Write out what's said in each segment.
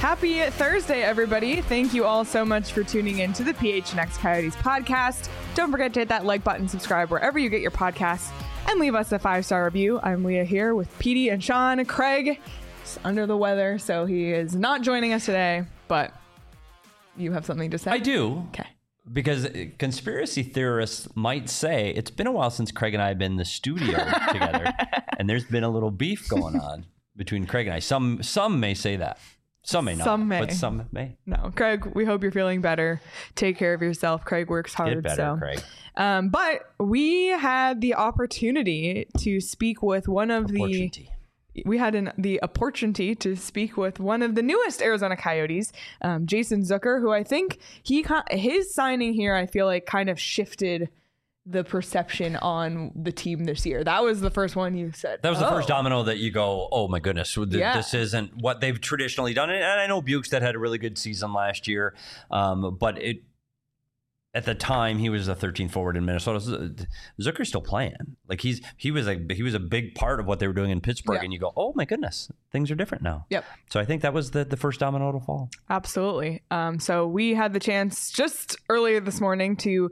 Happy Thursday, everybody. Thank you all so much for tuning in to the PHNX Coyotes podcast. Don't forget to hit that like button, subscribe wherever you get your podcasts, and leave us a 5-star review. I'm Leah here with Petey and Sean. Craig is under the weather, so he is not joining us today, but you have something to say? I do. Okay. Because conspiracy theorists might say it's been a while since Craig and I have been in the studio together, and there's been a little beef going on between Craig and I. Some may say that. Some may not. Some may. But some may. No, Craig, we hope you're feeling better. Take care of yourself. Craig works hard. Get better, Craig. But we had the opportunity to speak with one of the opportunity to speak with one of the newest Arizona Coyotes, Jason Zucker, who I think his signing here, I feel like kind of shifted the perception on the team this year. That was the first one you said. That was the first domino that you go, oh my goodness, this isn't what they've traditionally done. And I know Bukestad had a really good season last year, but at the time he was the 13th forward in Minnesota. Zucker's still playing. Like he was a big part of what they were doing in Pittsburgh, and you go, oh my goodness, things are different now. Yep. So I think that was the first domino to fall. Absolutely. So we had the chance just earlier this morning to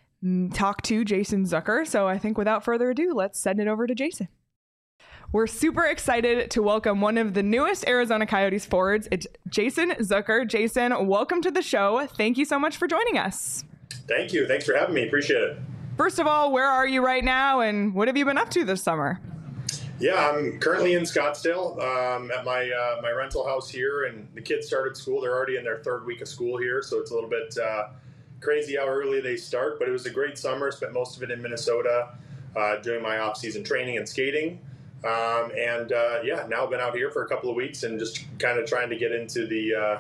talk to Jason Zucker. So I think without further ado, let's send it over to Jason. We're super excited to welcome one of the newest Arizona Coyotes forwards. It's Jason Zucker. Jason, welcome to the show. Thank you so much for joining us. Thank you. Thanks for having me. Appreciate it. First of all, where are you right now and what have you been up to this summer? Yeah, I'm currently in Scottsdale at my rental house here, and the kids started school. They're already in their third week of school here, so it's a little bit crazy how early they start, but it was a great summer. Spent most of it in Minnesota doing my off-season training and skating. Now I've been out here for a couple of weeks and just kind of trying to get into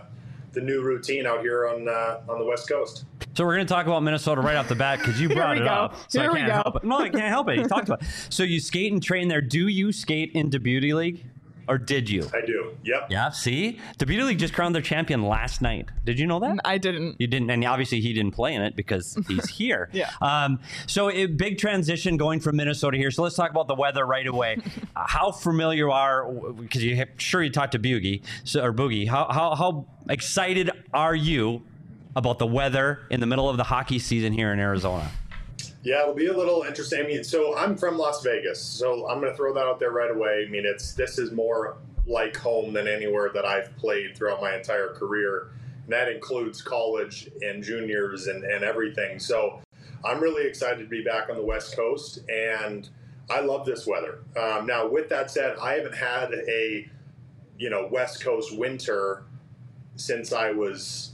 the new routine out here on the West Coast. So we're going to talk about Minnesota right off the bat because you brought it up. So I can't help it. No, I can't help it. You talked about it. So you skate and train there. Do you skate into Beauty League? Or did you? I do. Yep. Yeah. See, the Beauty League just crowned their champion last night. Did you know that? I didn't. You didn't, and obviously he didn't play in it because he's here. Yeah. So a big transition going from Minnesota here. So let's talk about the weather right away. How familiar are? Because you talked to Boogie or Boogie. How excited are you about the weather in the middle of the hockey season here in Arizona? Yeah, it'll be a little interesting. I mean, so I'm from Las Vegas, so I'm going to throw that out there right away. I mean, this is more like home than anywhere that I've played throughout my entire career, and that includes college and juniors and everything. So I'm really excited to be back on the West Coast, and I love this weather. Now, with that said, I haven't had a West Coast winter since I was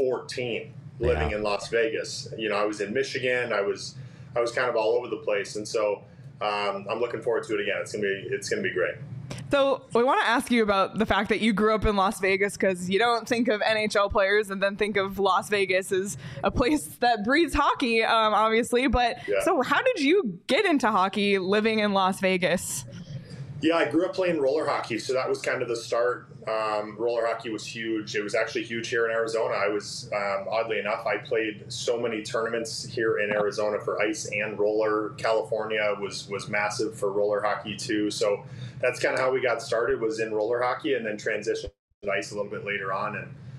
14, living in Las Vegas. I was in Michigan. I was kind of all over the place, and so I'm looking forward to it again. It's gonna be great. So we want to ask you about the fact that you grew up in Las Vegas, because you don't think of NHL players and then think of Las Vegas as a place that breeds hockey, obviously. But So how did you get into hockey living in Las Vegas? Yeah, I grew up playing roller hockey, so that was kind of the start. Roller hockey was huge. It was actually huge here in Arizona. I was, oddly enough, I played so many tournaments here in Arizona for ice and roller. California was massive for roller hockey too. So that's kind of how we got started, was in roller hockey, and then transitioned to ice a little bit later on,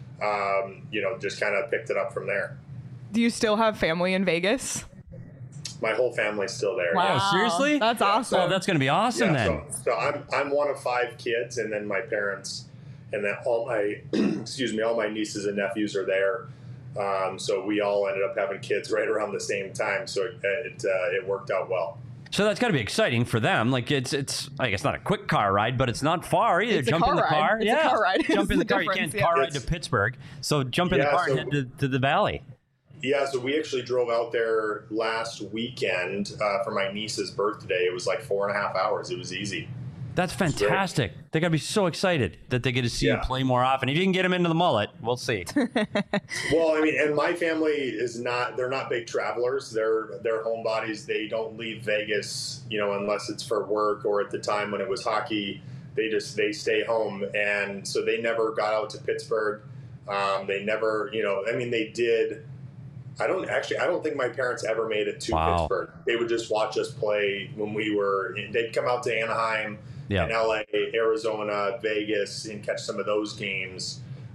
and just kind of picked it up from there. Do you still have family in Vegas? My whole family's still there. Wow. Yeah. Seriously? That's awesome. Oh, that's going to be awesome then. So I'm one of 5 kids, and then my parents, and then all my all my nieces and nephews are there. So we all ended up having kids right around the same time. So it worked out well. So that's got to be exciting for them. Like it's I guess not a quick car ride, but it's not far either. Jump in the car. It's a car ride. Jump in the car. You can't car ride to Pittsburgh. So jump in the car and head to the valley. Yeah, so we actually drove out there last weekend for my niece's birthday. It was like 4.5 hours. It was easy. That's fantastic. They got to be so excited that they get to see you play more often. If you can get them into the mullet, we'll see. Well, I mean, and my family they're not big travelers. They're homebodies. They don't leave Vegas, unless it's for work, or at the time when it was hockey, they stay home. And so they never got out to Pittsburgh. They never, they did. I don't think my parents ever made it to Pittsburgh. They would just watch us play when they'd come out to Anaheim, and LA, Arizona, Vegas, and catch some of those games.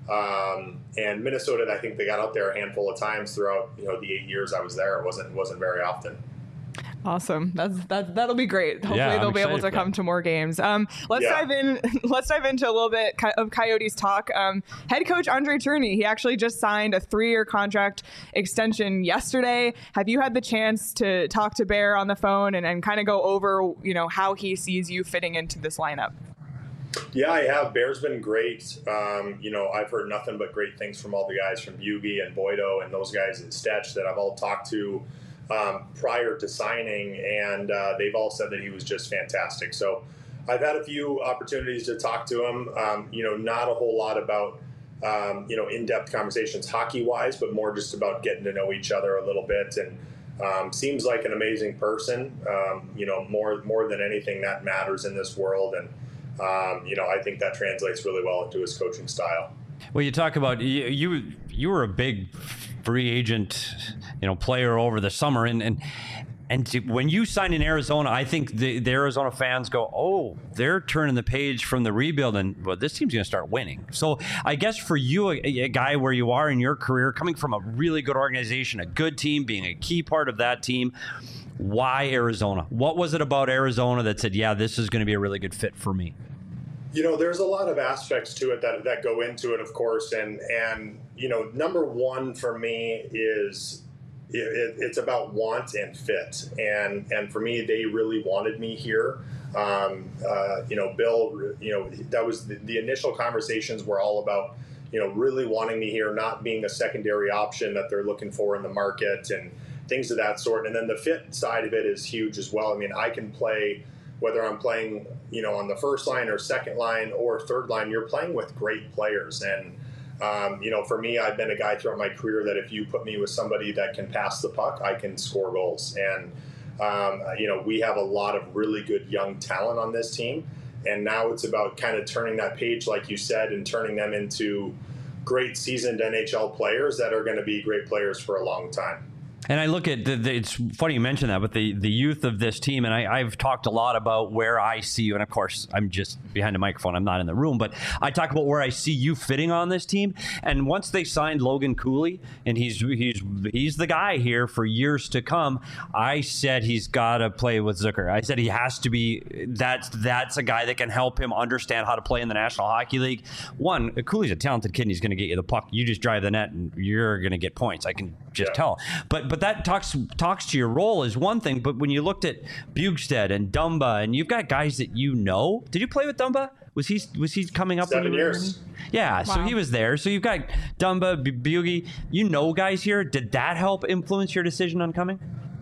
And Minnesota, I think they got out there a handful of times throughout the 8 years I was there. It wasn't very often. Awesome. That'll be great. Hopefully they'll be able to come to more games. Let's dive into a little bit of Coyotes talk. Head coach Andre Tourigny, he actually just signed a 3-year contract extension yesterday. Have you had the chance to talk to Bear on the phone and kind of go over, how he sees you fitting into this lineup? Yeah, I have. Bear's been great. I've heard nothing but great things from all the guys from Bugey and Boydo and those guys at Stetch that I've all talked to prior to signing, and they've all said that he was just fantastic. So I've had a few opportunities to talk to him, not a whole lot about, in-depth conversations hockey-wise, but more just about getting to know each other a little bit. And seems like an amazing person, more than anything that matters in this world. And, I think that translates really well into his coaching style. Well, you talk about you were a big free agent, player over the summer, and when you signed in Arizona, I think the Arizona fans go, oh, they're turning the page from the rebuild, and well, this team's going to start winning. So I guess for you, a guy where you are in your career, coming from a really good organization, a good team, being a key part of that team, why Arizona? What was it about Arizona that said, yeah, this is going to be a really good fit for me? There's a lot of aspects to it that go into it, of course. And number one for me is it's about want and fit. And for me, they really wanted me here. Bill, that was the initial conversations were all about, really wanting me here, not being a secondary option that they're looking for in the market and things of that sort. And then the fit side of it is huge as well. I mean, I can play, whether I'm playing, on the first line or second line or third line, you're playing with great players. And, for me, I've been a guy throughout my career that if you put me with somebody that can pass the puck, I can score goals. And, we have a lot of really good young talent on this team. And now it's about kind of turning that page, like you said, and turning them into great seasoned NHL players that are going to be great players for a long time. And I look at it's funny you mention that, but the youth of this team, and I've talked a lot about where I see you, and of course I'm just behind the microphone, I'm not in the room, but I talk about where I see you fitting on this team. And once they signed Logan Cooley, and he's the guy here for years to come, I said he's got to play with Zucker. I said he has to be. That's a guy that can help him understand how to play in the National Hockey League. One, Cooley's a talented kid, and he's going to get you the puck. You just drive the net, and you're going to get points. I can just tell. But that talks to your role is one thing. But when you looked at Bjugstad and Dumba, and you've got guys that did you play with Dumba? Was he coming up? 7 years. Yeah, wow. So he was there. So you've got Dumba, Bugey. Guys here. Did that help influence your decision on coming?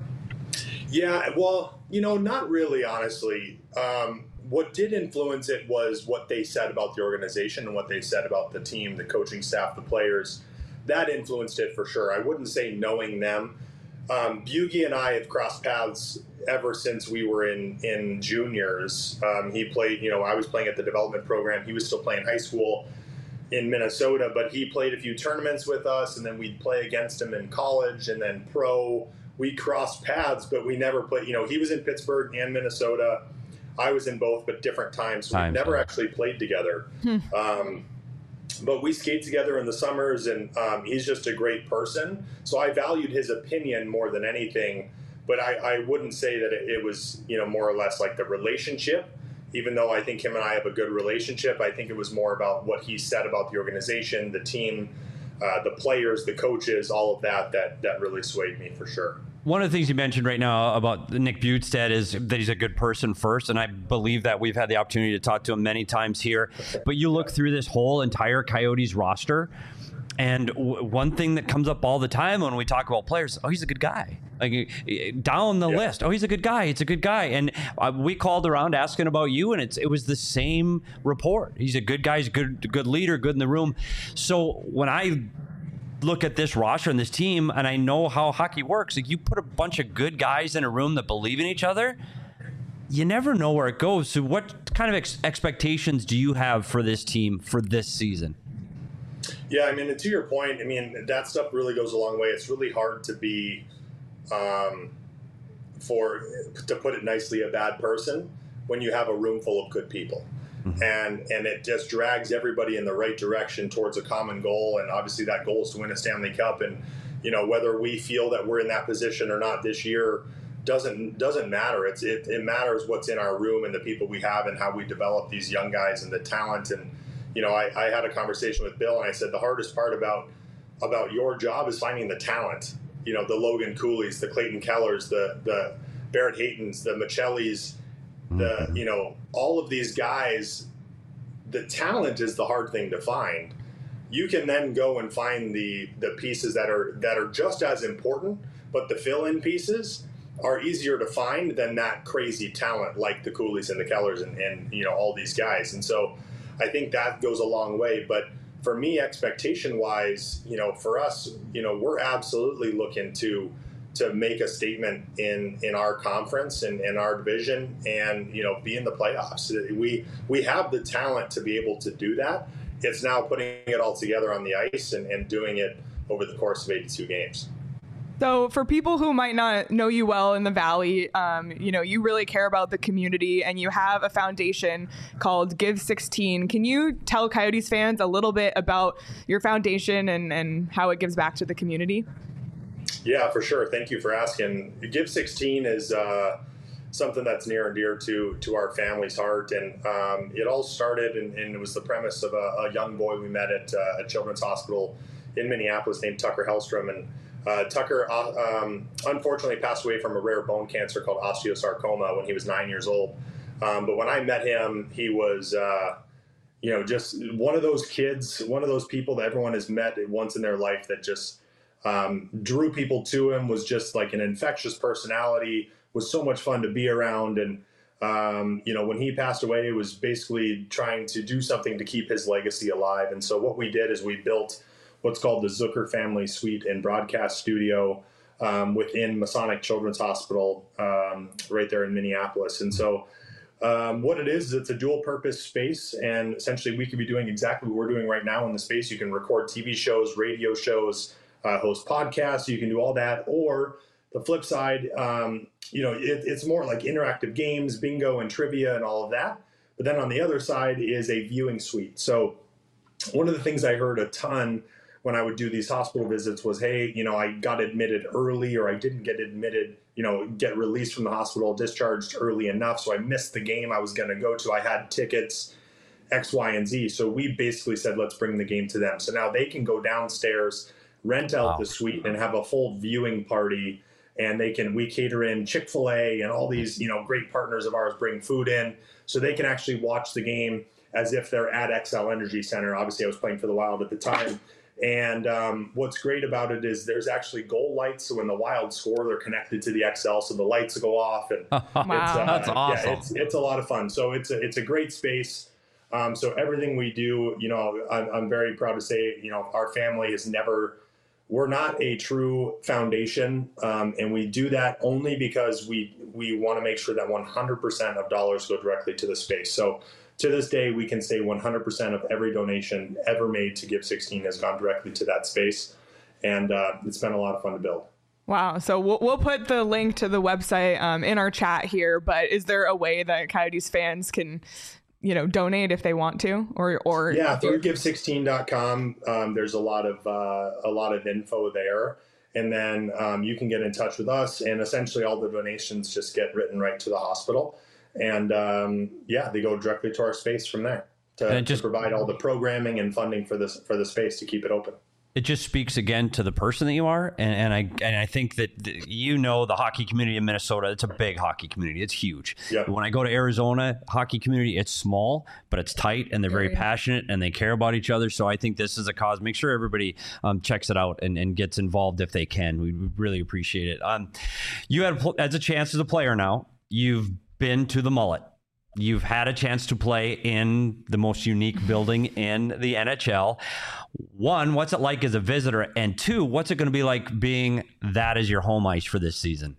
Yeah, well, not really, honestly. What did influence it was what they said about the organization and what they said about the team, the coaching staff, the players. That influenced it for sure. I wouldn't say knowing them. Bugey and I have crossed paths ever since we were in juniors. He played, I was playing at the development program. He was still playing high school in Minnesota, but he played a few tournaments with us, and then we'd play against him in college, and then pro. We crossed paths, but we never played. He was in Pittsburgh and Minnesota. I was in both, but different times. So we've never actually played together. But we skate together in the summers, and he's just a great person. So I valued his opinion more than anything. But I wouldn't say that it was, more or less like the relationship. Even though I think him and I have a good relationship, I think it was more about what he said about the organization, the team, the players, the coaches, all of that really swayed me for sure. One of the things you mentioned right now about Nick Bjugstad is that he's a good person first, and I believe that we've had the opportunity to talk to him many times here. But you look through this whole entire Coyotes roster, and one thing that comes up all the time when we talk about players, he's a good guy. Like down the list, he's a good guy. It's a good guy. And we called around asking about you, and it was the same report. He's a good guy. He's a good leader, good in the room. So when I look at this roster and this team, and I know how hockey works, like you put a bunch of good guys in a room that believe in each other, you never know where it goes. So what kind of expectations do you have for this team for this season? Yeah, I mean, to your point, I mean, that stuff really goes a long way. It's really hard to be, to put it nicely, a bad person when you have a room full of good people. and it just drags everybody in the right direction towards a common goal. And obviously that goal is to win a Stanley Cup. And, whether we feel that we're in that position or not this year doesn't matter. It matters what's in our room and the people we have and how we develop these young guys and the talent. And, I had a conversation with Bill and I said, the hardest part about your job is finding the talent, the Logan Cooleys, the Clayton Kellers, the Barrett Haytons, the Michellis, all of these guys. The talent is the hard thing to find. You can then go and find the pieces that are just as important, but the fill-in pieces are easier to find than that crazy talent like the Cooleys and the Kellers and all these guys. And so I think that goes a long way. But for me, expectation-wise, for us, we're absolutely looking to make a statement in our conference and in our division and, be in the playoffs. We have the talent to be able to do that. It's now putting it all together on the ice and doing it over the course of 82 games. So for people who might not know you well in the Valley, you really care about the community and you have a foundation called Give 16. Can you tell Coyotes fans a little bit about your foundation and how it gives back to the community? Yeah, for sure. Thank you for asking. Give 16 is something that's near and dear to our family's heart. And it all started, and it was the premise of a young boy we met at a children's hospital in Minneapolis named Tucker Hellstrom. And Tucker unfortunately passed away from a rare bone cancer called osteosarcoma when he was 9 years old. But when I met him, he was, just one of those kids, one of those people that everyone has met once in their life that just drew people to him, was just like an infectious personality, was so much fun to be around. And, when he passed away, it was basically trying to do something to keep his legacy alive. And so what we did is we built what's called the Zucker Family Suite and Broadcast Studio within Masonic Children's Hospital right there in Minneapolis. And so what it is, it's a dual purpose space. And essentially we could be doing exactly what we're doing right now in the space. You can record TV shows, radio shows, host podcasts. You can do all that. Or the flip side, it's more like interactive games, bingo and trivia and all of that. But then on the other side is a viewing suite. So one of the things I heard a ton when I would do these hospital visits was, hey, I got admitted early, or I didn't get admitted, get released from the hospital, discharged early enough. So I missed the game I was going to go to. I had tickets, X, Y, and Z. So we basically said, let's bring the game to them. So now they can go downstairs, rent out the suite and have a full viewing party. And we cater in Chick-fil-A and all these, great partners of ours bring food in, so they can actually watch the game as if they're at Xcel Energy Center. Obviously I was playing for the Wild at the time. And what's great about it is there's actually goal lights. So when the Wild score, they're connected to the Xcel, so the lights go off. And wow, that's awesome. Yeah, it's a lot of fun. So it's a great space. So everything we do, I'm very proud to say, our family is we're not a true foundation. And we do that only because we want to make sure that 100% of dollars go directly to the space. So to this day, we can say 100% of every donation ever made to Give 16 has gone directly to that space. And it's been a lot of fun to build. Wow. So we'll put the link to the website in our chat here, but is there a way that Coyotes fans can, donate if they want to, or yeah, through give16.com. There's a lot of info there. And then you can get in touch with us, and essentially all the donations just get written right to the hospital. And they go directly to our space from there to provide all the programming and funding for the space to keep it open. It just speaks again to the person that you are, and I think that the hockey community in Minnesota, it's a big hockey community. It's huge. Yep. When I go to Arizona, hockey community, it's small, but it's tight, and they're very passionate, and they care about each other. So I think this is a cause. Make sure everybody checks it out and gets involved if they can. We really appreciate it. You had as a chance as a player now. You've been to the Mullet. You've had a chance to play in the most unique building in the NHL. One, what's it like as a visitor? And two, what's it going to be like being that as your home ice for this season?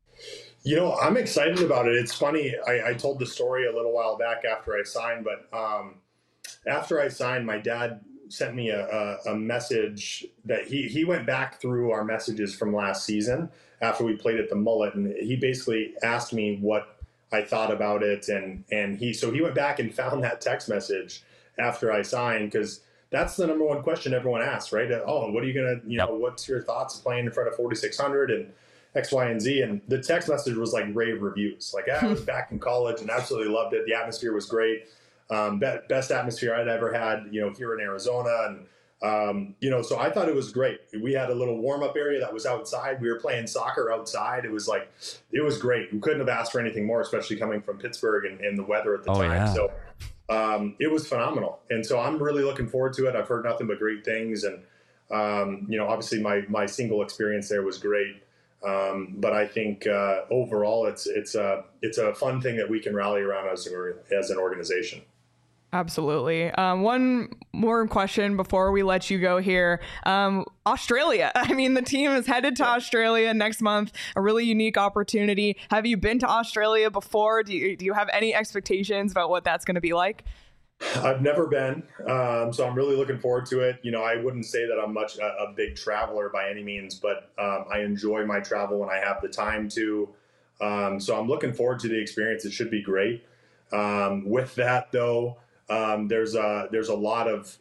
I'm excited about it. It's funny. I told the story a little while back after I signed, but after I signed, my dad sent me a message that he went back through our messages from last season after we played at the Mullet. And he basically asked me what I thought about it, and he went back and found that text message after I signed, because that's the number one question everyone asks, right? Oh, what are you gonna, what's your thoughts playing in front of 4,600 and X, Y, and Z? And the text message was like rave reviews. Like, I was back in college and absolutely loved it. The atmosphere was great. Best atmosphere I'd ever had, here in Arizona. And, so I thought it was great. We had a little warm-up area that was outside. We were playing soccer outside. It was great. We couldn't have asked for anything more, especially coming from Pittsburgh and the weather at the time. Yeah. So it was phenomenal. And so I'm really looking forward to it. I've heard nothing but great things. And, obviously my single experience there was great. But I think overall it's a fun thing that we can rally around as an organization. Absolutely. One more question before we let you go here. Australia. I mean, the team is headed to Australia next month, a really unique opportunity. Have you been to Australia before? Do you have any expectations about what that's going to be like? I've never been, so I'm really looking forward to it. I wouldn't say that I'm much a big traveler by any means, but I enjoy my travel when I have the time to. So I'm looking forward to the experience. It should be great. With that, though, there's a lot of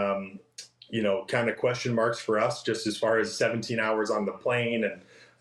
kind of question marks for us, just as far as 17 hours on the plane and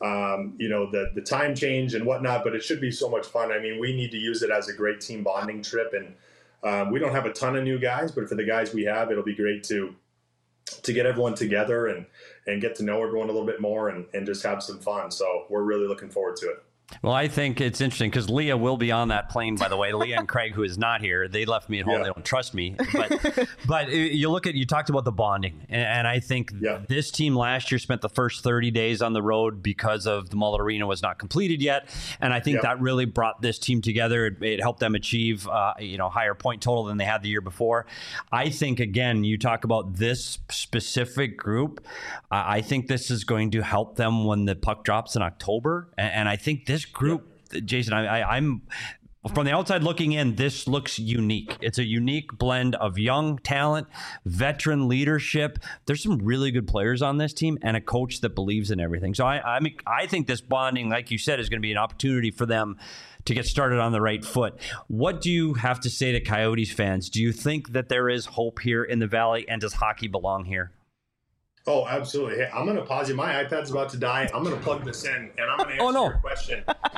the time change and whatnot. But it should be so much fun. I mean, we need to use it as a great team bonding trip, and we don't have a ton of new guys, but for the guys we have, it'll be great to get everyone together and get to know everyone a little bit more and just have some fun. So we're really looking forward to it. Well, I think it's interesting because Leah will be on that plane, by the way. Leah and Craig, who is not here, they left me at home. Yeah. They don't trust me. But you talked about the bonding. And I think this team last year spent the first 30 days on the road because of the Mullet Arena was not completed yet. And I think that really brought this team together. It helped them achieve, higher point total than they had the year before. I think, again, you talk about this specific group. I think this is going to help them when the puck drops in October. And I think this group, Jason, I'm from the outside looking in, this looks unique. It's a unique blend of young talent, veteran leadership. There's some really good players on this team and a coach that believes in everything. So I think this bonding, like you said, is going to be an opportunity for them to get started on the right foot. What do you have to say to Coyotes fans? Do you think that there is hope here in the Valley, and does hockey belong here? Oh, absolutely. Hey, I'm going to pause you. My iPad's about to die. I'm going to plug this in, and I'm going to answer your question.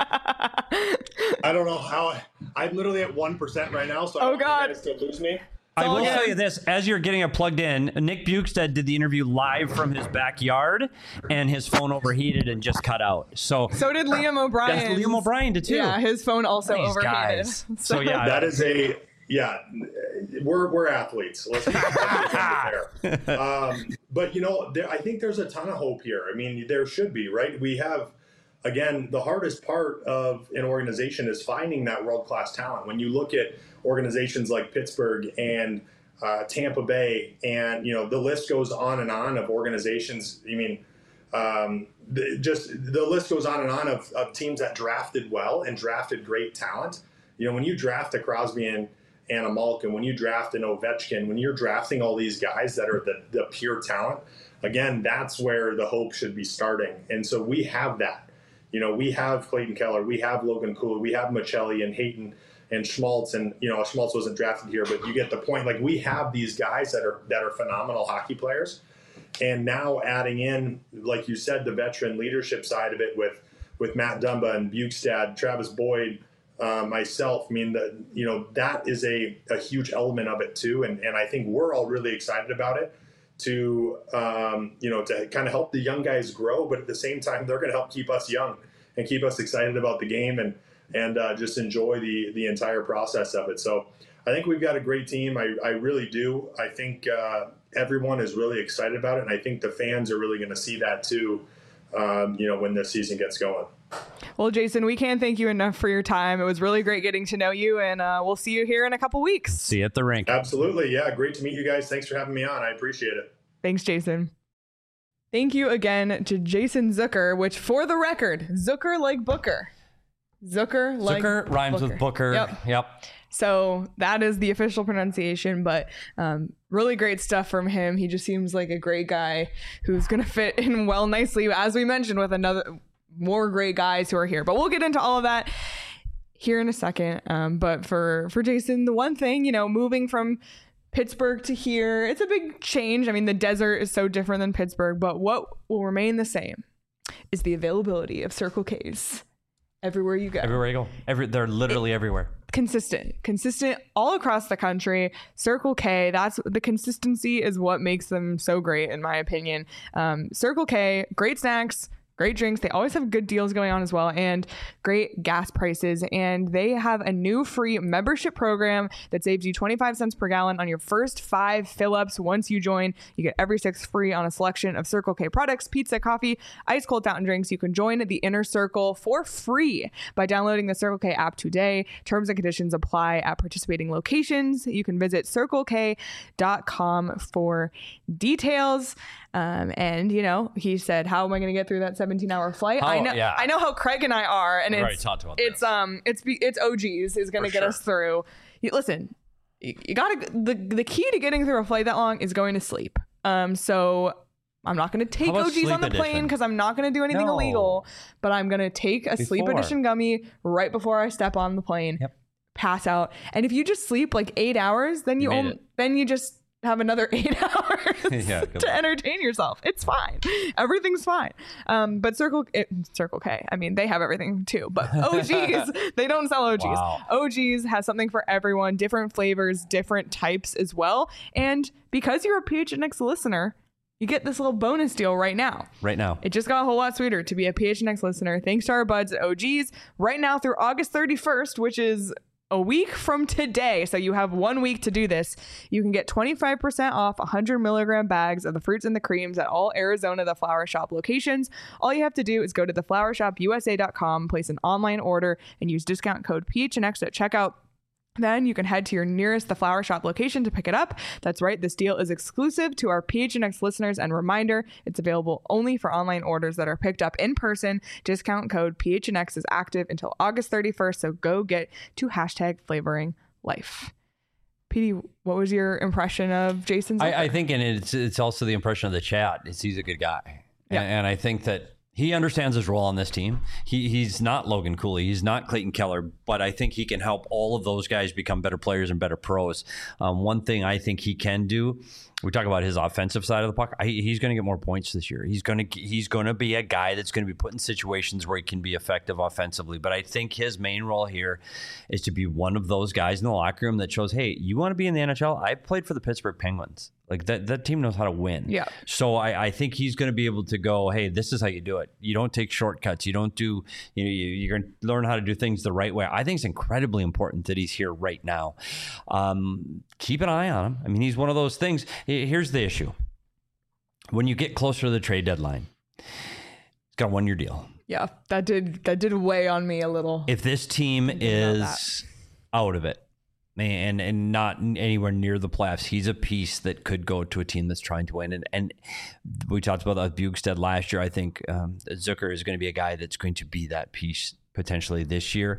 I don't know how. I'm literally at 1% right now, so I don't want you guys to lose me. I will tell you this, as you're getting it plugged in, Nick Bjugstad did the interview live from his backyard, and his phone overheated and just cut out. So did Liam O'Brien. Yes, Liam O'Brien did too. Yeah, his phone also overheated. Guys. So yeah. That is we're athletes. Let's be fair. But I think there's a ton of hope here. I mean, there should be, right? We have, again, the hardest part of an organization is finding that world-class talent. When you look at organizations like Pittsburgh and Tampa Bay, and the list goes on and on of organizations. I mean, the list goes on and on of teams that drafted well and drafted great talent. When you draft a Crosby and a Malkin, when you draft an Ovechkin, when you're drafting all these guys that are the pure talent, again, that's where the hope should be starting. And so we have that. We have Clayton Keller, we have Logan Cooley, we have Michelli and Hayton and Schmaltz, and Schmaltz wasn't drafted here, but you get the point. Like, we have these guys that are phenomenal hockey players, and now adding in, like you said, the veteran leadership side of it with Matt Dumba and Bjugstad, Travis Boyd, myself. I mean, that is a huge element of it too, and I think we're all really excited about it to kind of help the young guys grow, but at the same time, they're going to help keep us young and keep us excited about the game and just enjoy the entire process of it. So I think we've got a great team. I really do. I think everyone is really excited about it, and I think the fans are really going to see that too, when this season gets going. Well, Jason, we can't thank you enough for your time. It was really great getting to know you, and we'll see you here in a couple weeks. See you at the rink. Absolutely. Yeah, great to meet you guys. Thanks for having me on. I appreciate it. Thanks, Jason. Thank you again to Jason Zucker, which, for the record, Zucker like Booker. Zucker rhymes Booker. With Booker. Yep. So that is the official pronunciation, but really great stuff from him. He just seems like a great guy who's going to fit in well nicely, as we mentioned, with more great guys who are here. But we'll get into all of that here in a second. But for Jason, the one thing, moving from Pittsburgh to here, it's a big change. I mean, the desert is so different than Pittsburgh, but what will remain the same is the availability of Circle K's everywhere you go. Everywhere you go. They're literally everywhere. Consistent all across the country. Circle K, that's the consistency is what makes them so great, in my opinion. Circle K, great snacks, great drinks. They always have good deals going on as well, and great gas prices. And they have a new free membership program that saves you 25 cents per gallon on your first 5 fill-ups. Once you join, you get every 6 free on a selection of Circle K products, pizza, coffee, ice cold fountain drinks. You can join the Inner Circle for free by downloading the Circle K app today. Terms and conditions apply at participating locations. You can visit circlek.com for details. And he said, how am I going to get through that 17-hour flight? I know how Craig and I are, and it's OGs is going to get us through. Listen, you gotta, the key to getting through a flight that long is going to sleep. So I'm not going to take OGs on the plane because I'm not going to do anything illegal, but I'm going to take a sleep edition gummy right before I step on the plane, pass out. And if you just sleep like 8 hours, then you just have another 8 hours to entertain yourself. It's fine. Everything's fine. But Circle K, I mean, they have everything too, but OGs, they don't sell OGs. Wow. OGs has something for everyone, different flavors, different types as well. And because you're a PHNX listener, you get this little bonus deal right now. It just got a whole lot sweeter to be a PHNX listener. Thanks to our buds at OGs right now through August 31st, which is a week from today. So you have 1 week to do this. You can get 25% off 100 milligram bags of the fruits and the creams at all Arizona The Flower Shop locations. All you have to do is go to theflowershopusa.com, place an online order, and use discount code PHNX at checkout. Then you can head to your nearest The Flower Shop location to pick it up. That's right, this deal is exclusive to our PHNX listeners, and reminder, it's available only for online orders that are picked up in person. Discount code PHNX is active until August 31st, so go get to #flavoringlife. PD, what was your impression of Jason Zucker? I think, and it's also the impression of the chat, is he's a good guy. Yeah. And I think that he understands his role on this team. He's not Logan Cooley. He's not Clayton Keller, but I think he can help all of those guys become better players and better pros. One thing I think he can do, we talk about his offensive side of the puck. He's going to get more points this year. He's going to be a guy that's going to be put in situations where he can be effective offensively. But I think his main role here is to be one of those guys in the locker room that shows, hey, you want to be in the NHL? I played for the Pittsburgh Penguins. Like that team knows how to win. Yeah. So I think he's going to be able to go, hey, this is how you do it. You don't take shortcuts. You don't do, you're going to learn how to do things the right way. I think it's incredibly important that he's here right now. Keep an eye on him. I mean, he's one of those things. Here's the issue. When you get closer to the trade deadline, it's got a 1-year deal. Yeah, that did weigh on me a little. If this team is out of it, and not anywhere near the playoffs, he's a piece that could go to a team that's trying to win. And we talked about that with Bjugstad last year. I think Zucker is going to be a guy that's going to be that piece potentially this year.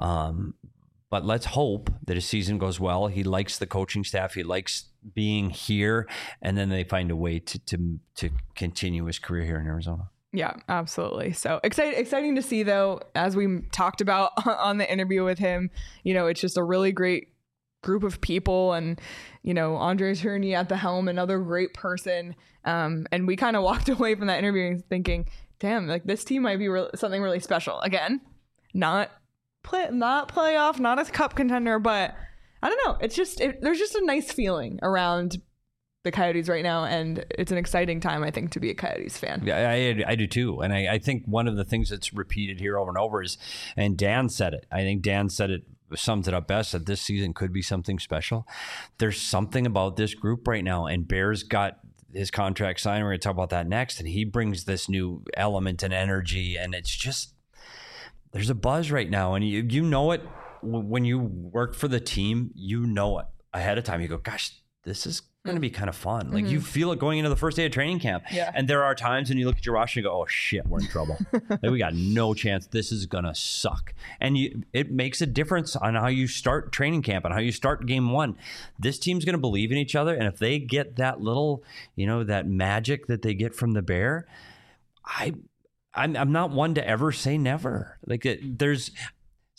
But let's hope that his season goes well. He likes the coaching staff. He likes being here. And then they find a way to continue his career here in Arizona. Yeah, absolutely. So exciting to see, though, as we talked about on the interview with him, it's just a really great group of people, and Andres Herney at the helm, another great person, and we kind of walked away from that interview thinking, damn, like this team might be something really special. Again, not playoff, not a cup contender, but I don't know, it's just there's just a nice feeling around the Coyotes right now, and it's an exciting time, I think, to be a Coyotes fan. Yeah, I do too. And I think one of the things that's repeated here over and over is, and Dan said it, I think Dan said it, sums it up best, that this season could be something special. There's something about this group right now, and Bear's got his contract signed. We're going to talk about that next, and he brings this new element and energy, and it's just, there's a buzz right now, and you know it when you work for the team. You know it ahead of time. You go, gosh, this is going to be kind of fun. Like you feel it going into the first day of training camp. Yeah. And there are times when you look at your roster and you go, oh shit, we're in trouble. Like, we got no chance. This is going to suck. And it makes a difference on how you start training camp and how you start game one. This team's going to believe in each other. And if they get that little, that magic that they get from the Bear, I'm not one to ever say never. Like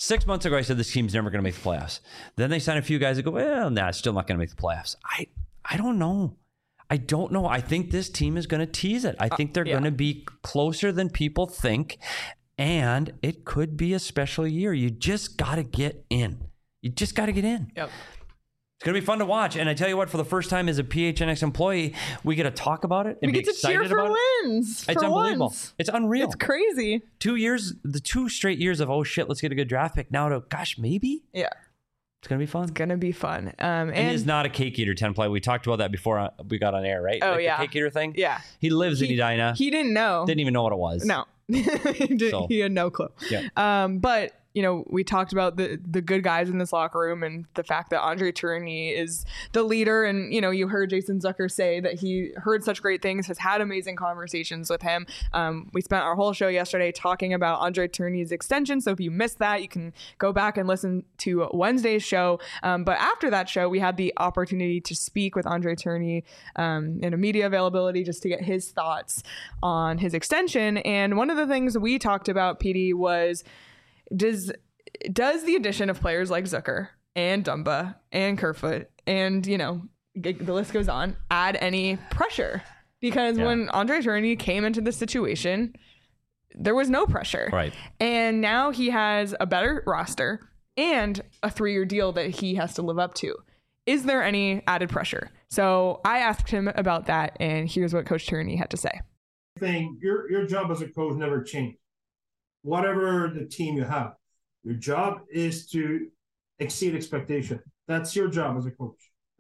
6 months ago, I said this team's never going to make the playoffs. Then they sign a few guys that go, well, nah, it's still not going to make the playoffs. I don't know. I don't know. I think this team is going to tease it. I think they're going to be closer than people think, and it could be a special year. You just got to get in. You just got to get in. Yep. It's going to be fun to watch. And I tell you what, for the first time as a PHNX employee, we get to talk about it and we get to cheer for wins. It's unbelievable. Once. It's unreal. It's crazy. 2 years, the 2 straight years of, oh shit, let's get a good draft pick. Now to, gosh, maybe? Yeah. It's going to be fun. It's going to be fun. And he's not a cake eater 10 play. We talked about that before we got on air, right? Oh, like yeah. The cake eater thing? Yeah. He lives in Edina. He didn't know. Didn't even know what it was. No. He had no clue. Yeah. But we talked about the good guys in this locker room and the fact that Andre Tourigny is the leader. And, you heard Jason Zucker say that he heard such great things, has had amazing conversations with him. We spent our whole show yesterday talking about Andre Tourigny's extension. So if you missed that, you can go back and listen to Wednesday's show. But after that show, we had the opportunity to speak with Andre Tourigny in a media availability just to get his thoughts on his extension. And one of the things we talked about, PD, was does the addition of players like Zucker and Dumba and Kerfoot and, the list goes on, add any pressure? Because when Andre Tourigny came into this situation, there was no pressure. Right. And now he has a better roster and a 3-year deal that he has to live up to. Is there any added pressure? So I asked him about that, and here's what Coach Tourigny had to say. Your job as a coach never changed. Whatever the team you have, your job is to exceed expectation. That's your job as a coach.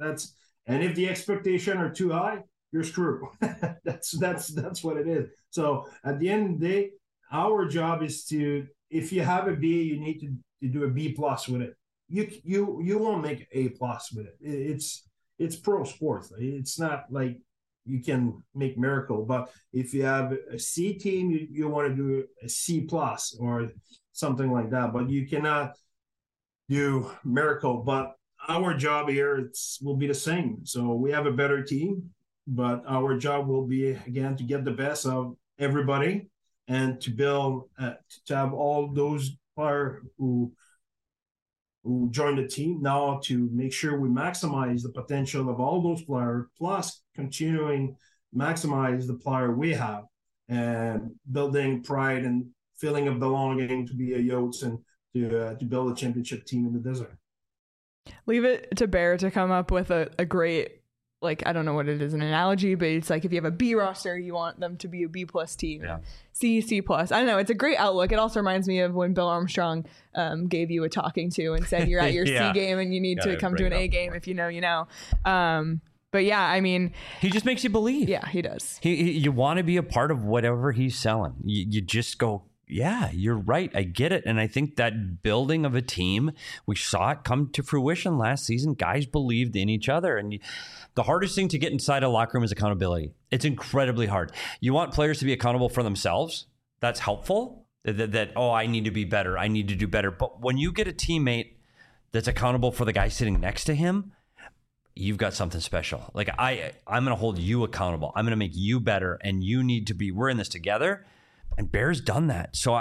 And if the expectation are too high, you're screwed. That's what it is. So at the end of the day, our job is to, if you have a B, you need to do a B+ with it. You won't make A+ with it. It's pro sports. It's not like you can make miracle, but if you have a C team, you want to do a C+ or something like that, but you cannot do miracle. But our job here will be the same. So we have a better team, but our job will be, again, to get the best of everybody and to build, to have all those players who join the team now, to make sure we maximize the potential of all those players, plus continuing maximize the player we have and building pride and feeling of belonging to be a Yotes and to build a championship team in the desert. Leave it to Bear to come up with a great, I don't know what it is, an analogy, but it's like if you have a B roster, you want them to be a B+ team. Yeah. C+. I don't know. It's a great outlook. It also reminds me of when Bill Armstrong gave you a talking to and said you're at your C game and you need to come to an A game. If you know, you know. But yeah, I mean, he just makes you believe. Yeah, he does. You want to be a part of whatever he's selling. You just go, yeah, you're right. I get it. And I think that building of a team, we saw it come to fruition last season. Guys believed in each other. And the hardest thing to get inside a locker room is accountability. It's incredibly hard. You want players to be accountable for themselves. That's helpful. That I need to be better. I need to do better. But when you get a teammate that's accountable for the guy sitting next to him, you've got something special. Like I'm going to hold you accountable. I'm going to make you better. And you need to be, we're in this together. And Bear's done that. So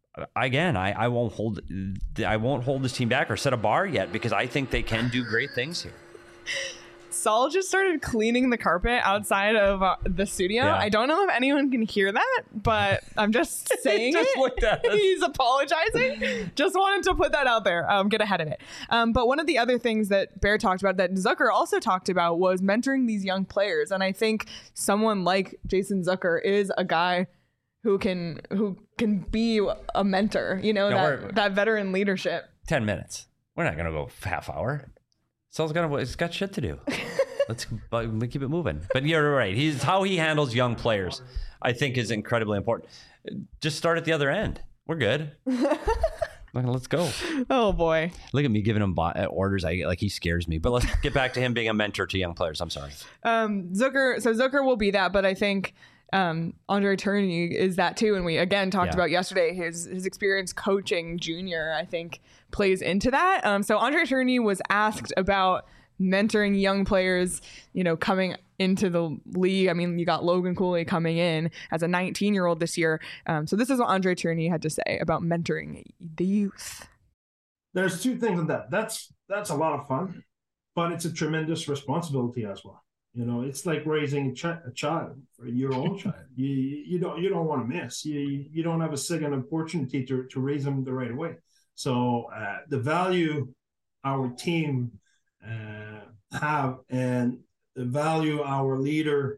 I won't hold this team back or set a bar yet, because I think they can do great things here. Saul just started cleaning the carpet outside of the studio. Yeah. I don't know if anyone can hear that, but I'm just saying just looked at us. He's apologizing. Just wanted to put that out there. Get ahead of it. But one of the other things that Bear talked about, that Zucker also talked about, was mentoring these young players. And I think someone like Jason Zucker is a guy who can be a mentor, that veteran leadership. 10 minutes. We're not going to go half hour. Saul's got shit to do. Let's keep it moving. But you're right. How he handles young players, I think, is incredibly important. Just start at the other end. We're good. Let's go. Oh boy. Look at me giving him orders. He scares me. But let's get back to him being a mentor to young players. I'm sorry. Zucker will be that, but I think Andre Tourigny is that too. And we again talked about yesterday his experience coaching junior, I think, plays into that. So Andre Tourigny was asked about mentoring young players, coming into the league. I mean, you got Logan Cooley coming in as a 19-year-old this year. So this is what Andre Tourigny had to say about mentoring the youth. there's two things in that. That's a lot of fun, but it's a tremendous responsibility as well. You know, it's like raising a child, your own child. You don't want to miss. You don't have a second opportunity to raise them the right way. So the value our team have, and the value our leader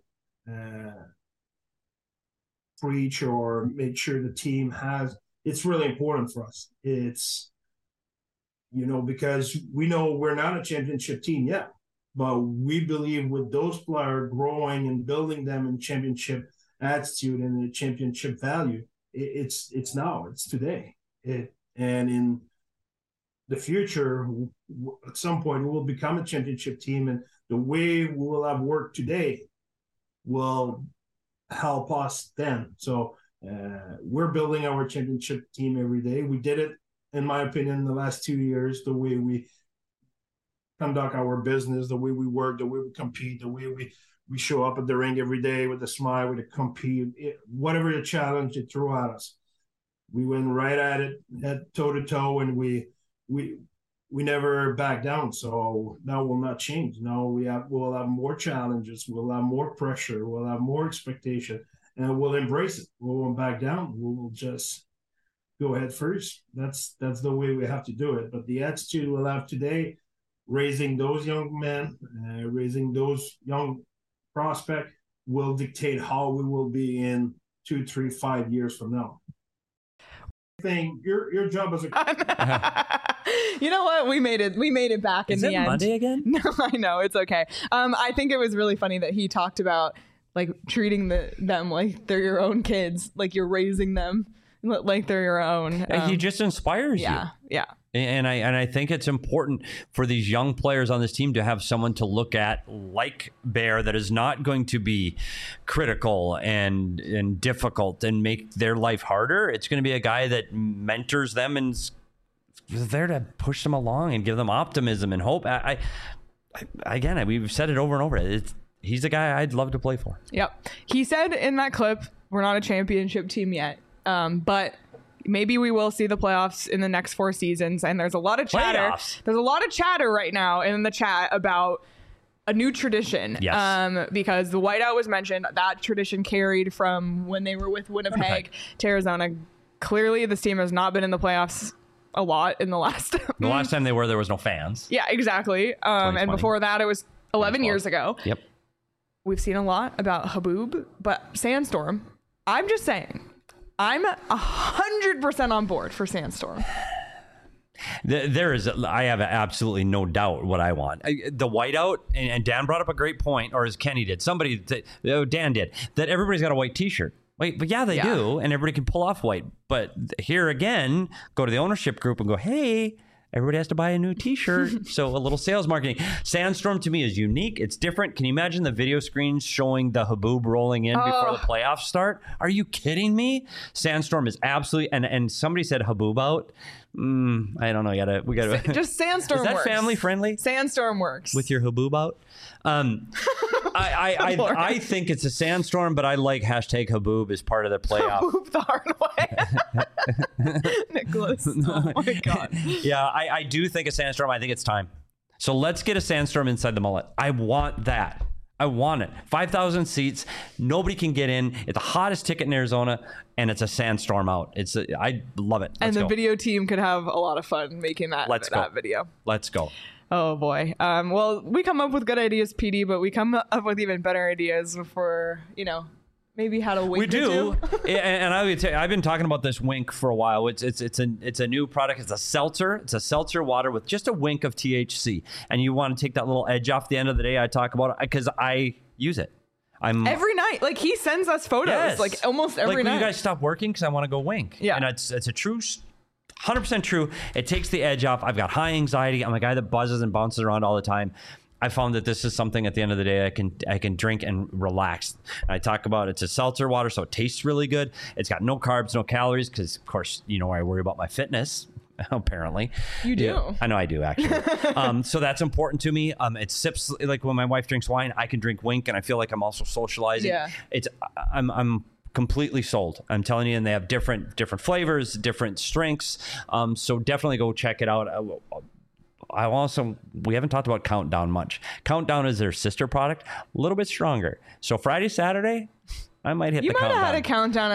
preach or make sure the team has, it's really important for us. It's, you know, because we know we're not a championship team yet, but we believe with those players growing and building them in championship attitude and the championship value, it's today. And in the future, at some point, we will become a championship team, and the way we will have worked today will help us then. So we're building our championship team every day. We did it, in my opinion, in the last 2 years, the way we conduct our business, the way we work, the way we compete, the way we show up at the ring every day with a smile, with a compete, whatever the challenge they throw at us. We went right at it, head toe to toe, and we never back down. So that will not change. Now we'll have more challenges, we'll have more pressure, we'll have more expectation, and we'll embrace it. We won't back down. We'll just go ahead first. That's the way we have to do it. But the attitude we'll have today, raising those young men, raising those young prospects, will dictate how we will be in 2, 3, 5 years from now. Your job as a you know what, we made it back in the end. Monday again? No, I know, it's okay. I think it was really funny that he talked about like treating them like they're your own kids, like you're raising them like they're your own. He just inspires you. Yeah. And I think it's important for these young players on this team to have someone to look at like Bear that is not going to be critical and difficult and make their life harder. It's going to be a guy that mentors them and is there to push them along and give them optimism and hope. We've said it over and over. He's a guy I'd love to play for. Yep. He said in that clip, we're not a championship team yet, but maybe we will see the playoffs in the next 4 seasons. And there's a lot of chatter. Playoffs. There's a lot of chatter right now in the chat about a new tradition. Yes. Because the whiteout was mentioned. That tradition carried from when they were with Winnipeg to Arizona. Clearly, this team has not been in the playoffs a lot in the last. The last time they were, there was no fans. Yeah, exactly. And before that, it was 11 years ago. Yep. We've seen a lot about Haboob, but Sandstorm, I'm just saying, I'm 100% on board for Sandstorm. I have absolutely no doubt what I want. The whiteout, and Dan brought up a great point, or as Kenny did, Dan did, that everybody's got a white t-shirt. Wait, but they do, and everybody can pull off white. But here again, go to the ownership group and go, hey, everybody has to buy a new t-shirt. So a little sales marketing. Sandstorm to me is unique. It's different. Can you imagine the video screens showing the Haboob rolling in before the playoffs start? Are you kidding me? Sandstorm is absolutely, and somebody said Haboob out. I don't know. We gotta just Sandstorm. Is that works. family friendly? Sandstorm works with your Haboob out. I think it's a Sandstorm, but I like hashtag Haboob as part of the playoff. Haboob the hard way. Nicholas. Oh my God. Yeah, I do think a Sandstorm. I think it's time. So let's get a Sandstorm inside the mullet. I want that. I want it. 5,000 seats. Nobody can get in. It's the hottest ticket in Arizona, and it's a Sandstorm out. I love it. And the video team could have a lot of fun making that video. Let's go. Oh boy. Well, we come up with good ideas, PD, but we come up with even better ideas for, maybe how to wink. We do. And I would say, I've been talking about this wink for a while. It's a new product. It's a seltzer. It's a seltzer water with just a wink of THC. And you want to take that little edge off the end of the day. I talk about it because I use it. Every night. Like he sends us photos, like almost every night. Will you guys stop working? Because I want to go wink. Yeah. And it's a true 100% true. It takes the edge off. I've got high anxiety. I'm a guy that buzzes and bounces around all the time. I found that this is something at the end of the day I can drink and relax. And I talk about it's a seltzer water, so it tastes really good. It's got no carbs, no calories, because of course, I worry about my fitness. Apparently, you do. Yeah, I know I do actually. So that's important to me. It sips like when my wife drinks wine, I can drink wink, and I feel like I'm also socializing. Yeah. I'm completely sold. I'm telling you, and they have different flavors, different strengths. So definitely go check it out. We haven't talked about Countdown much. Countdown is their sister product, a little bit stronger. So Friday, Saturday, I might hit the countdown. You might have had a countdown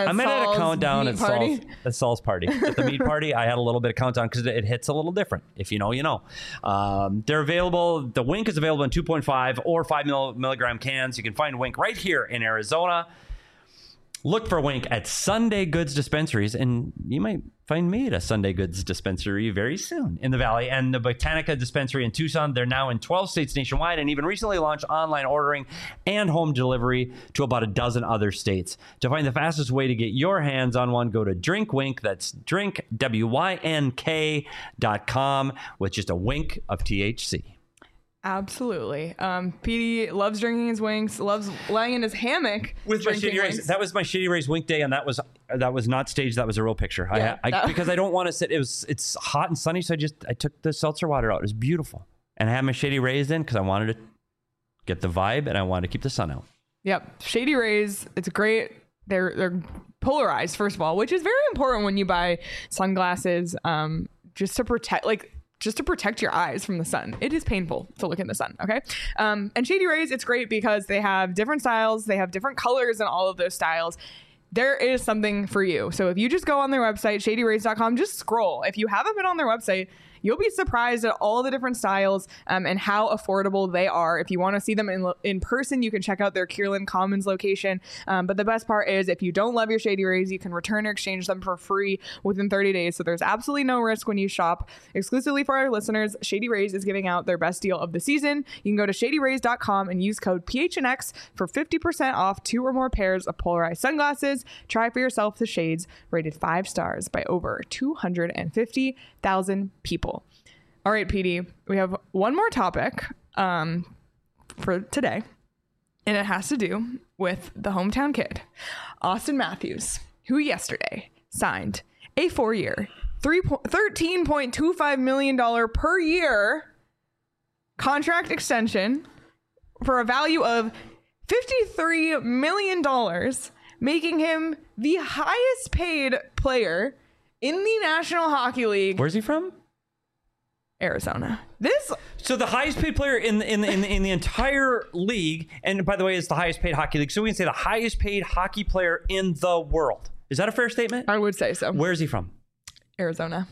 at Saul's party. At the meat party, I had a little bit of countdown because it hits a little different. If you know, you know. They're available. The Wink is available in 2.5 or 5 milligram cans. You can find Wink right here in Arizona. Look for Wink at Sunday Goods dispensaries, and you might find me at a Sunday Goods dispensary very soon in the Valley. And the Botanica dispensary in Tucson, they're now in 12 states nationwide and even recently launched online ordering and home delivery to about a dozen other states. To find the fastest way to get your hands on one, go to Drink Wink. That's drink, WYNK.com, with just a wink of THC. Absolutely. PD loves drinking his winks, loves lying in his hammock with my Shady Rays. That was my Shady Rays Wink day, and that was not staged. That was a real picture. Yeah, because I don't want to sit. It's hot and sunny, so I took the seltzer water out. It was beautiful, and I had my Shady Rays in because I wanted to get the vibe and I wanted to keep the sun out. Yep, Shady Rays. It's great. They're polarized, first of all, which is very important when you buy sunglasses. Just to protect your eyes from the sun. It is painful to look in the sun, okay? And Shady Rays, it's great because they have different styles. They have different colors in all of those styles. There is something for you. So if you just go on their website, shadyrays.com, just scroll. If you haven't been on their website, you'll be surprised at all the different styles and how affordable they are. If you want to see them in person, you can check out their Kierland Commons location. But the best part is if you don't love your Shady Rays, you can return or exchange them for free within 30 days. So there's absolutely no risk when you shop. Exclusively for our listeners, Shady Rays is giving out their best deal of the season. You can go to shadyrays.com and use code PHNX for 50% off 2 or more pairs of polarized sunglasses. Try for yourself the shades rated 5 stars by over 250,000 people. All right, PD, we have one more topic for today, and it has to do with the hometown kid, Austin Matthews, who yesterday signed a 4-year, $13.25 million per year contract extension for a value of $53 million, making him the highest paid player in the National Hockey League. Where's he from? Arizona. So the highest paid player in the entire league, and by the way, it's the highest paid hockey league. So we can say the highest paid hockey player in the world. Is that a fair statement? I would say so. Where is he from? Arizona.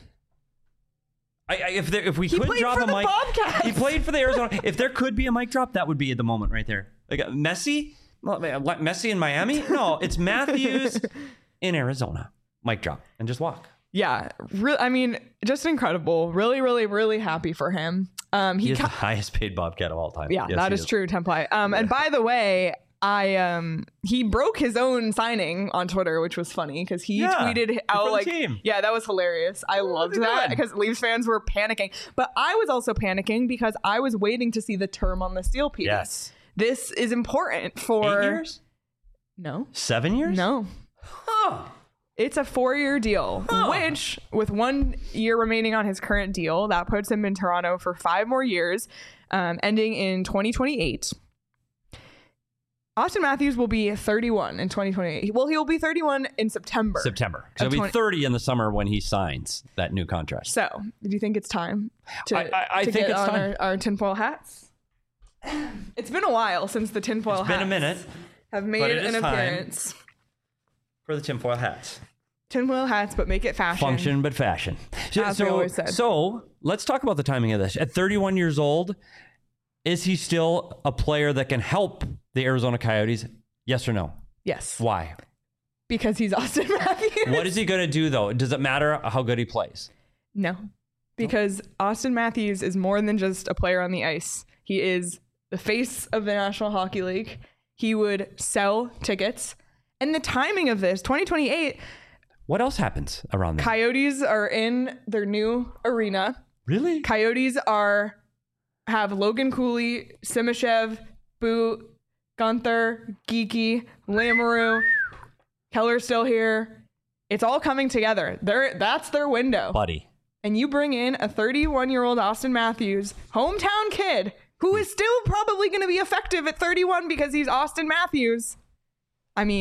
If we could drop a mic, he played for the Arizona. If there could be a mic drop, that would be at the moment right there. Like Messi in Miami? No, it's Matthews in Arizona. Mic drop and just walk. Yeah, just incredible. Really, really, really happy for him. He is the highest paid Bobcat of all time. Yeah, yes, that is true, Template. And by the way, he broke his own signing on Twitter, which was funny because he tweeted out that was hilarious. I loved that because Leafs fans were panicking, but I was also panicking because I was waiting to see the term on the steel piece. Yes, this is important for 8 years. No, 7 years. No. Huh. It's a 4-year deal, which with 1 year remaining on his current deal, that puts him in Toronto for 5 more years, ending in 2028. Austin Matthews will be 31 in 2028. Well, he'll be 31 in September. Because he'll be 30 in the summer when he signs that new contract. So, do you think it's time to think get it's on time. Our tinfoil hats? It's been a while since the tinfoil hats. It's been a minute. Have made an appearance. For the tinfoil hats. Tinfoil hats, but make it fashion. Function, but fashion. As we always said. So let's talk about the timing of this. At 31 years old, is he still a player that can help the Arizona Coyotes? Yes or no? Yes. Why? Because he's Austin Matthews. What is he going to do, though? Does it matter how good he plays? No. Because Austin Matthews is more than just a player on the ice. He is the face of the National Hockey League. He would sell tickets. And the timing of this, 2028... What else happens around there? Coyotes are in their new arena. Really? Coyotes have Logan Cooley, Simashev, Boot, Gunther, Geeky, Lamoureux, Keller's still here. It's all coming together. That's their window. Buddy. And you bring in a 31-year-old Austin Matthews, hometown kid, who is still probably going to be effective at 31 because he's Austin Matthews.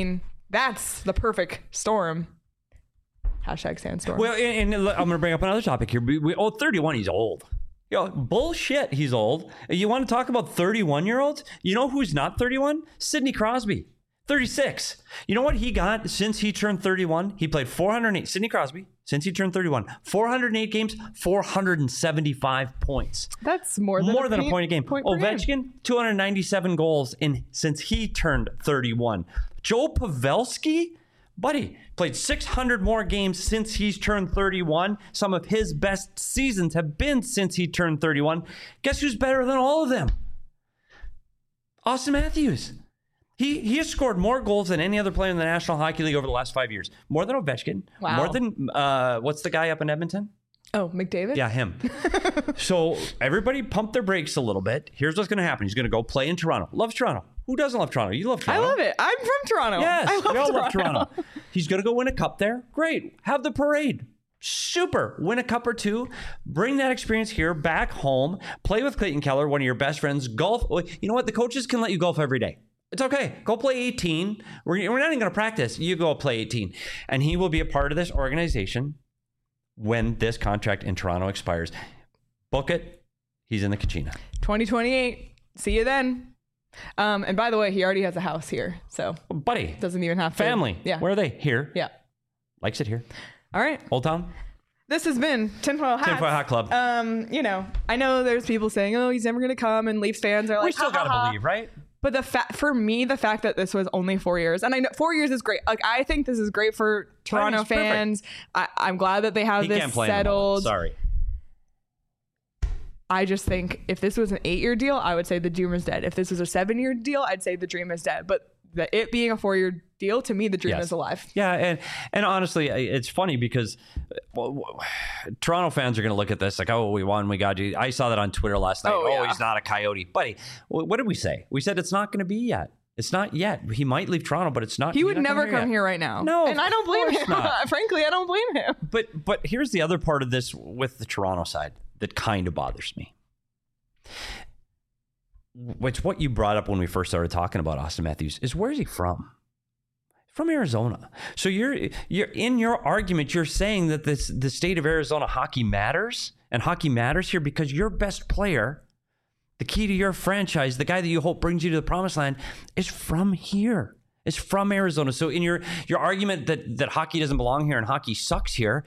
That's the perfect storm. Hashtag sandstorm. Well, and I'm going to bring up another topic here. 31, he's old. Bullshit, he's old. You want to talk about 31-year-olds? You know who's not 31? Sidney Crosby, 36. You know what he got since he turned 31? He played 408. Sidney Crosby, since he turned 31, 408 games, 475 points. That's more than a point a game. Ovechkin, 297 goals since he turned 31. Joe Pavelski, buddy, played 600 more games since he's turned 31. Some of his best seasons have been since he turned 31. Guess who's better than all of them? Austin Matthews. He has scored more goals than any other player in the National Hockey League over the last 5 years. More than Ovechkin. Wow. More than, what's the guy up in Edmonton? Oh, McDavid? Yeah, him. So everybody pump their brakes a little bit. Here's what's going to happen. He's going to go play in Toronto. Loves Toronto. Who doesn't love Toronto? You love Toronto. I love it. I'm from Toronto. Yes, we all love Toronto. He's going to go win a cup there. Great. Have the parade. Super. Win a cup or two. Bring that experience here back home. Play with Clayton Keller, one of your best friends. Golf. You know what? The coaches can let you golf every day. It's okay. Go play 18. We're not even going to practice. You go play 18. And he will be a part of this organization when this contract in Toronto expires. Book it. He's in the Kachina. 2028. See you then. And by the way, he already has a house here, so buddy, doesn't even have family. Yeah. Where are they? Here. Yeah. Likes it here. All right. Old Town. This has been Tinfoil Hats. Tinfoil Hat Club. I know there's people saying, "Oh, he's never going to come," and Leafs fans are like, "We still got to believe, right?" But for me, the fact that this was only 4 years, and I know 4 years is great. Like, I think this is great for Toronto fans. I'm glad that they have this settled. Sorry. I just think if this was an 8-year deal, I would say the dream is dead. If this was a 7-year deal, I'd say the dream is dead. But it being a 4-year deal, to me, the dream is alive. Yeah, and honestly, it's funny because Toronto fans are going to look at this like, oh, we won, we got you. I saw that on Twitter last night. Oh, he's not a Coyote. Buddy, what did we say? We said it's not going to be yet. It's not yet. He might leave Toronto, but it's not. He would never come here right now. No, and I don't blame him. Frankly, I don't blame him. But here's the other part of this with the Toronto side that kind of bothers me. Which what you brought up when we first started talking about Austin Matthews is, where is he from? From Arizona. So you're in your argument, you're saying that the state of Arizona hockey matters, and hockey matters here because your best player, the key to your franchise, the guy that you hope brings you to the promised land, is from here. Is from Arizona. So in your argument that hockey doesn't belong here and hockey sucks here,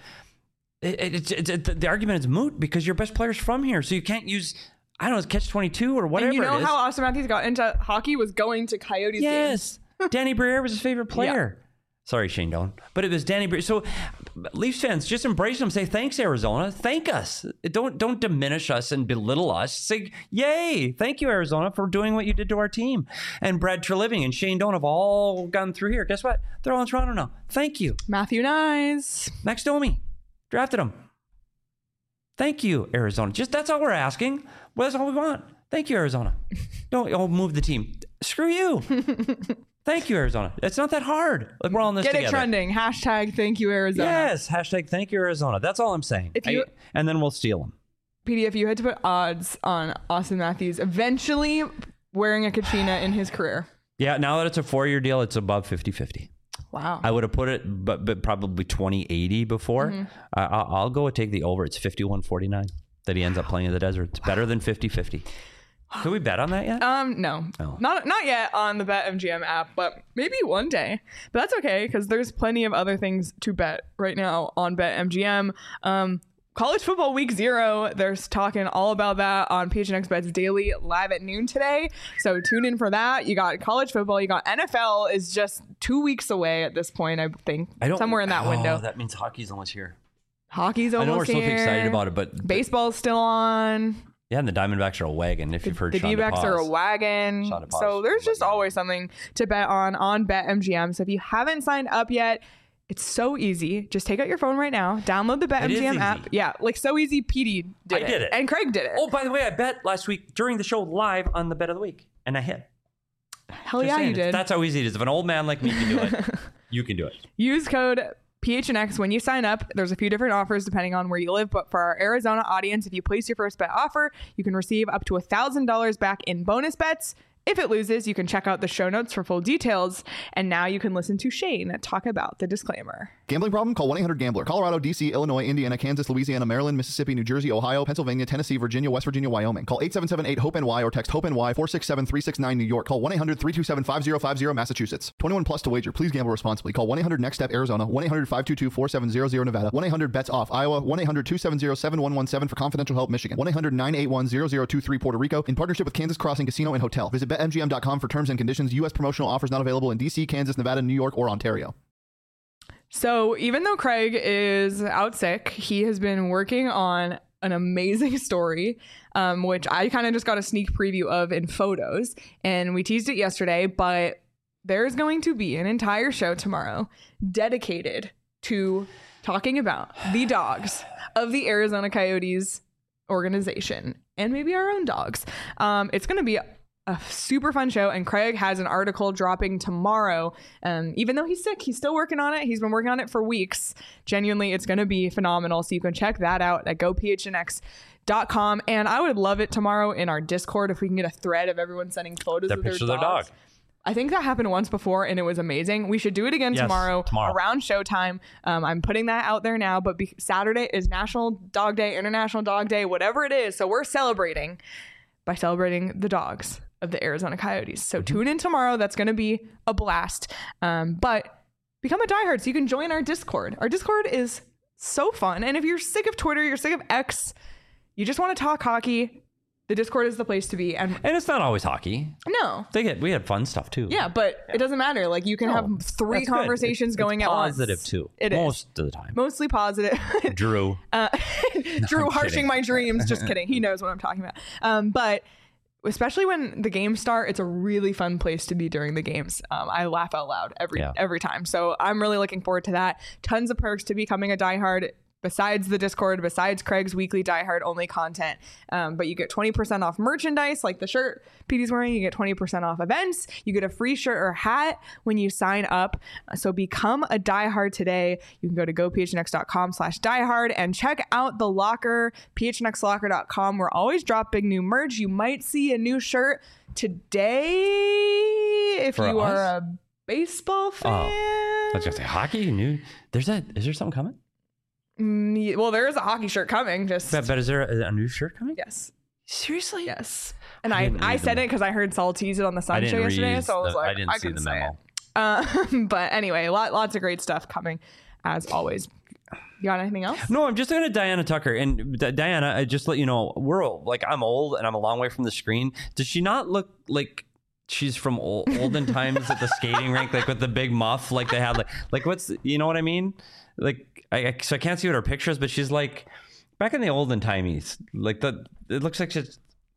the argument is moot because your best player's from here. So you can't use, I don't know, catch-22 or whatever. And you know it is. how Austin Matthews got into hockey was going to Coyotes games. Danny Briere was his favorite player. Yeah. Sorry, Shane Doan. But it was Danny Briere. So Leafs fans, just embrace them. Say, thanks, Arizona. Thank us. Don't diminish us and belittle us. Say, yay. Thank you, Arizona, for doing what you did to our team. And Brad Treliving and Shane Doan have all gone through here. Guess what? They're all in Toronto now. Thank you. Matthew Nyes. Max Domi. Drafted him. Thank you, Arizona. Just that's all we're asking. Well, that's all we want. Thank you, Arizona. Don't move the team. Screw you. Thank you, Arizona. It's not that hard. Like, we're all in this together. Get it trending. Hashtag thank you, Arizona. Yes. Hashtag thank you, Arizona. That's all I'm saying. And then we'll steal them. PD, if you had to put odds on Austin Matthews eventually wearing a Kachina in his career. Yeah. Now that it's a 4-year deal, it's above 50-50. Wow. I would have put it, but probably 20-80 before. Mm-hmm. I'll go and take the over. It's 51-49 that he ends up playing in the desert. It's better than 50-50. Can we bet on that yet? No. Oh. Not yet on the BetMGM app, but maybe one day. But that's okay because there's plenty of other things to bet right now on BetMGM. College football week 0, they're talking all about that on PHNX Bets Daily live at noon today. So tune in for that. You got college football, you got NFL is just 2 weeks away at this point, I think. Somewhere in that window. That means hockey's almost here. Hockey's almost here. I know we're so excited about it, but baseball's still on. Yeah, and the Diamondbacks are a wagon. If you've heard, the D-backs are a wagon. So there's just always something to bet on BetMGM. So if you haven't signed up yet, it's so easy. Just take out your phone right now. Download the BetMGM app. Yeah, like so easy. PD did it. And Craig did it. Oh, by the way, I bet last week during the show live on the Bet of the Week, and I hit. Hell yeah, you did. That's how easy it is. If an old man like me can do it, you can do it. Use code PHNX when you sign up. There's a few different offers depending on where you live, but for our Arizona audience, if you place your first bet offer, you can receive up to $1,000 back in bonus bets If it loses, you can check out the show notes for full details. And now you can listen to Shane talk about the disclaimer. Gambling problem? Call 1-800-GAMBLER. Colorado, D.C., Illinois, Indiana, Kansas, Louisiana, Maryland, Mississippi, New Jersey, Ohio, Pennsylvania, Tennessee, Virginia, West Virginia, Wyoming. Call 877-8-HOPE-NY or text HOPE-NY 467-369 New York. Call 1-800-327-5050 Massachusetts. 21 plus to wager. Please gamble responsibly. Call 1-800-NEXT-STEP Arizona. 1-800-522-4700 Nevada. 1-800-BETS-OFF Iowa. 1-800-270-7117 for confidential help Michigan. 1-800-981-0023 Puerto Rico. In partnership with Kansas Crossing Casino and Hotel. Visit BetMGM.com for terms and conditions. U.S. promotional offers not available in D.C., Kansas, Nevada, New York, or Ontario. So even though Craig is out sick, he has been working on an amazing story, which I kind of just got a sneak preview of in photos. And we teased it yesterday, but there's going to be an entire show tomorrow dedicated to talking about the dogs of the Arizona Coyotes organization and maybe our own dogs. It's going to be a super fun show, and Craig has an article dropping tomorrow. Even though he's sick, he's still working on it. He's been working on it for weeks. Genuinely, it's going to be phenomenal. So you can check that out at gophnx.com. And I would love it tomorrow in our Discord if we can get a thread of everyone sending photos of their dogs. I think that happened once before and it was amazing. We should do it again tomorrow around showtime. I'm putting that out there now, but Saturday is National Dog Day, International Dog Day, whatever it is. So we're celebrating by celebrating the dogs of the Arizona Coyotes. So tune in tomorrow. That's going to be a blast. But become a diehard so you can join our Discord. Our Discord is so fun. And if you're sick of Twitter, you're sick of X, you just want to talk hockey, the Discord is the place to be. And it's not always hockey. No. We had fun stuff too. Yeah, but it doesn't matter. Like you can have three conversations going at once. Positive too. It Most is. of the time. Mostly positive. Drew. Drew harshing my dreams. Just kidding. He knows what I'm talking about. But especially when the games start, it's a really fun place to be during the games. I laugh out loud every time. So I'm really looking forward to that. Tons of perks to becoming a diehard. Besides the Discord, besides Craig's weekly diehard only content. But you get 20% off merchandise, like the shirt Petey's wearing. You get 20% off events. You get a free shirt or hat when you sign up. So become a diehard today. You can go to gophnx.com/diehard and check out the locker, phnxlocker.com. We're always dropping new merch. You might see a new shirt today if you are a baseball fan. I was going to say hockey. Is there something coming? Well, there is a hockey shirt coming. But is there a new shirt coming? Yes. Seriously? Yes. And I said it because I heard Saul tease it on the Sun Show yesterday, so I was like, I didn't see the memo. But anyway, lots of great stuff coming as always. You got anything else? No, I'm just looking at Diana Tucker. And Diana, I just let you know, I'm old and I'm a long way from the screen. Does she not look like she's from olden times at the skating rink, like with the big muff, like they had, like what's, you know what I mean? Like, so I can't see what her picture is, but she's like back in the olden timies. Like it looks like she's.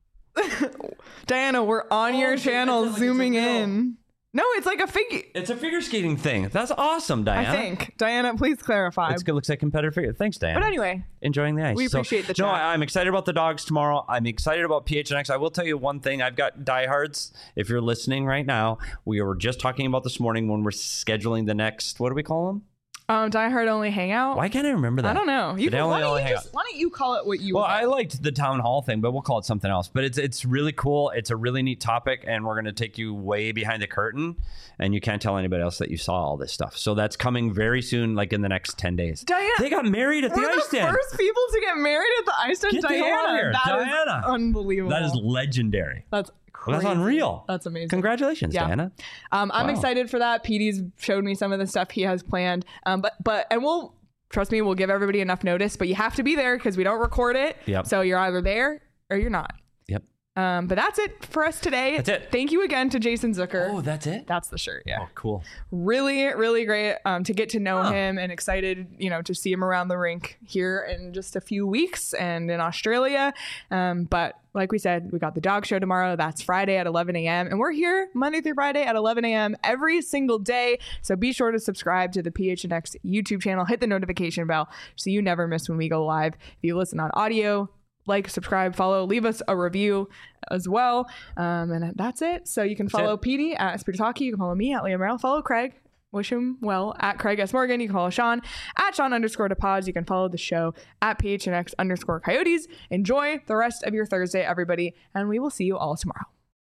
Diana, we're on your channel, zooming in. No, it's like a figure. It's a figure skating thing. That's awesome, Diana. I think. Diana, please clarify. It looks like competitive figure. Thanks, Diana. But anyway. Enjoying the ice. We appreciate the chat. No, I'm excited about the dogs tomorrow. I'm excited about PHNX. I will tell you one thing. I've got diehards. If you're listening right now, we were just talking about this morning when we're scheduling the next, what do we call them? Diehard only hangout. Why can't I remember that? I don't know. Why don't you call it what you want? Well, I liked the town hall thing, but we'll call it something else. But it's really cool. It's a really neat topic, and we're going to take you way behind the curtain, and you can't tell anybody else that you saw all this stuff. So that's coming very soon, like in the next 10 days. Diana, they got married at the ice den. We're the first people to get married at the ice den. Get the hell out of here. Diana. Is unbelievable. That is legendary. That's crazy. That's unreal. That's amazing. Congratulations, Diana. I'm excited for that. Petey's showed me some of the stuff he has planned. And we'll trust me, we'll give everybody enough notice, but you have to be there because we don't record it. Yep. So you're either there or you're not. Yep. But that's it for us today. That's it. Thank you again to Jason Zucker. Oh, that's it? That's the shirt. Yeah. Oh, cool. Really, really great to get to know him, and excited, to see him around the rink here in just a few weeks and in Australia. But like we said, we got the dog show tomorrow. That's Friday at 11 a.m. And we're here Monday through Friday at 11 a.m. every single day. So be sure to subscribe to the PHNX YouTube channel. Hit the notification bell so you never miss when we go live. If you listen on audio, like, subscribe, follow, leave us a review as well. And that's it. So you can follow Petey at Speeder Talkie. You can follow me at Liam Merrill. Follow Craig. Wish him well at Craig S. Morgan. You can follow Sean at Sean_DePods. You can follow the show at PHNX_Coyotes. Enjoy the rest of your Thursday, everybody. And we will see you all tomorrow.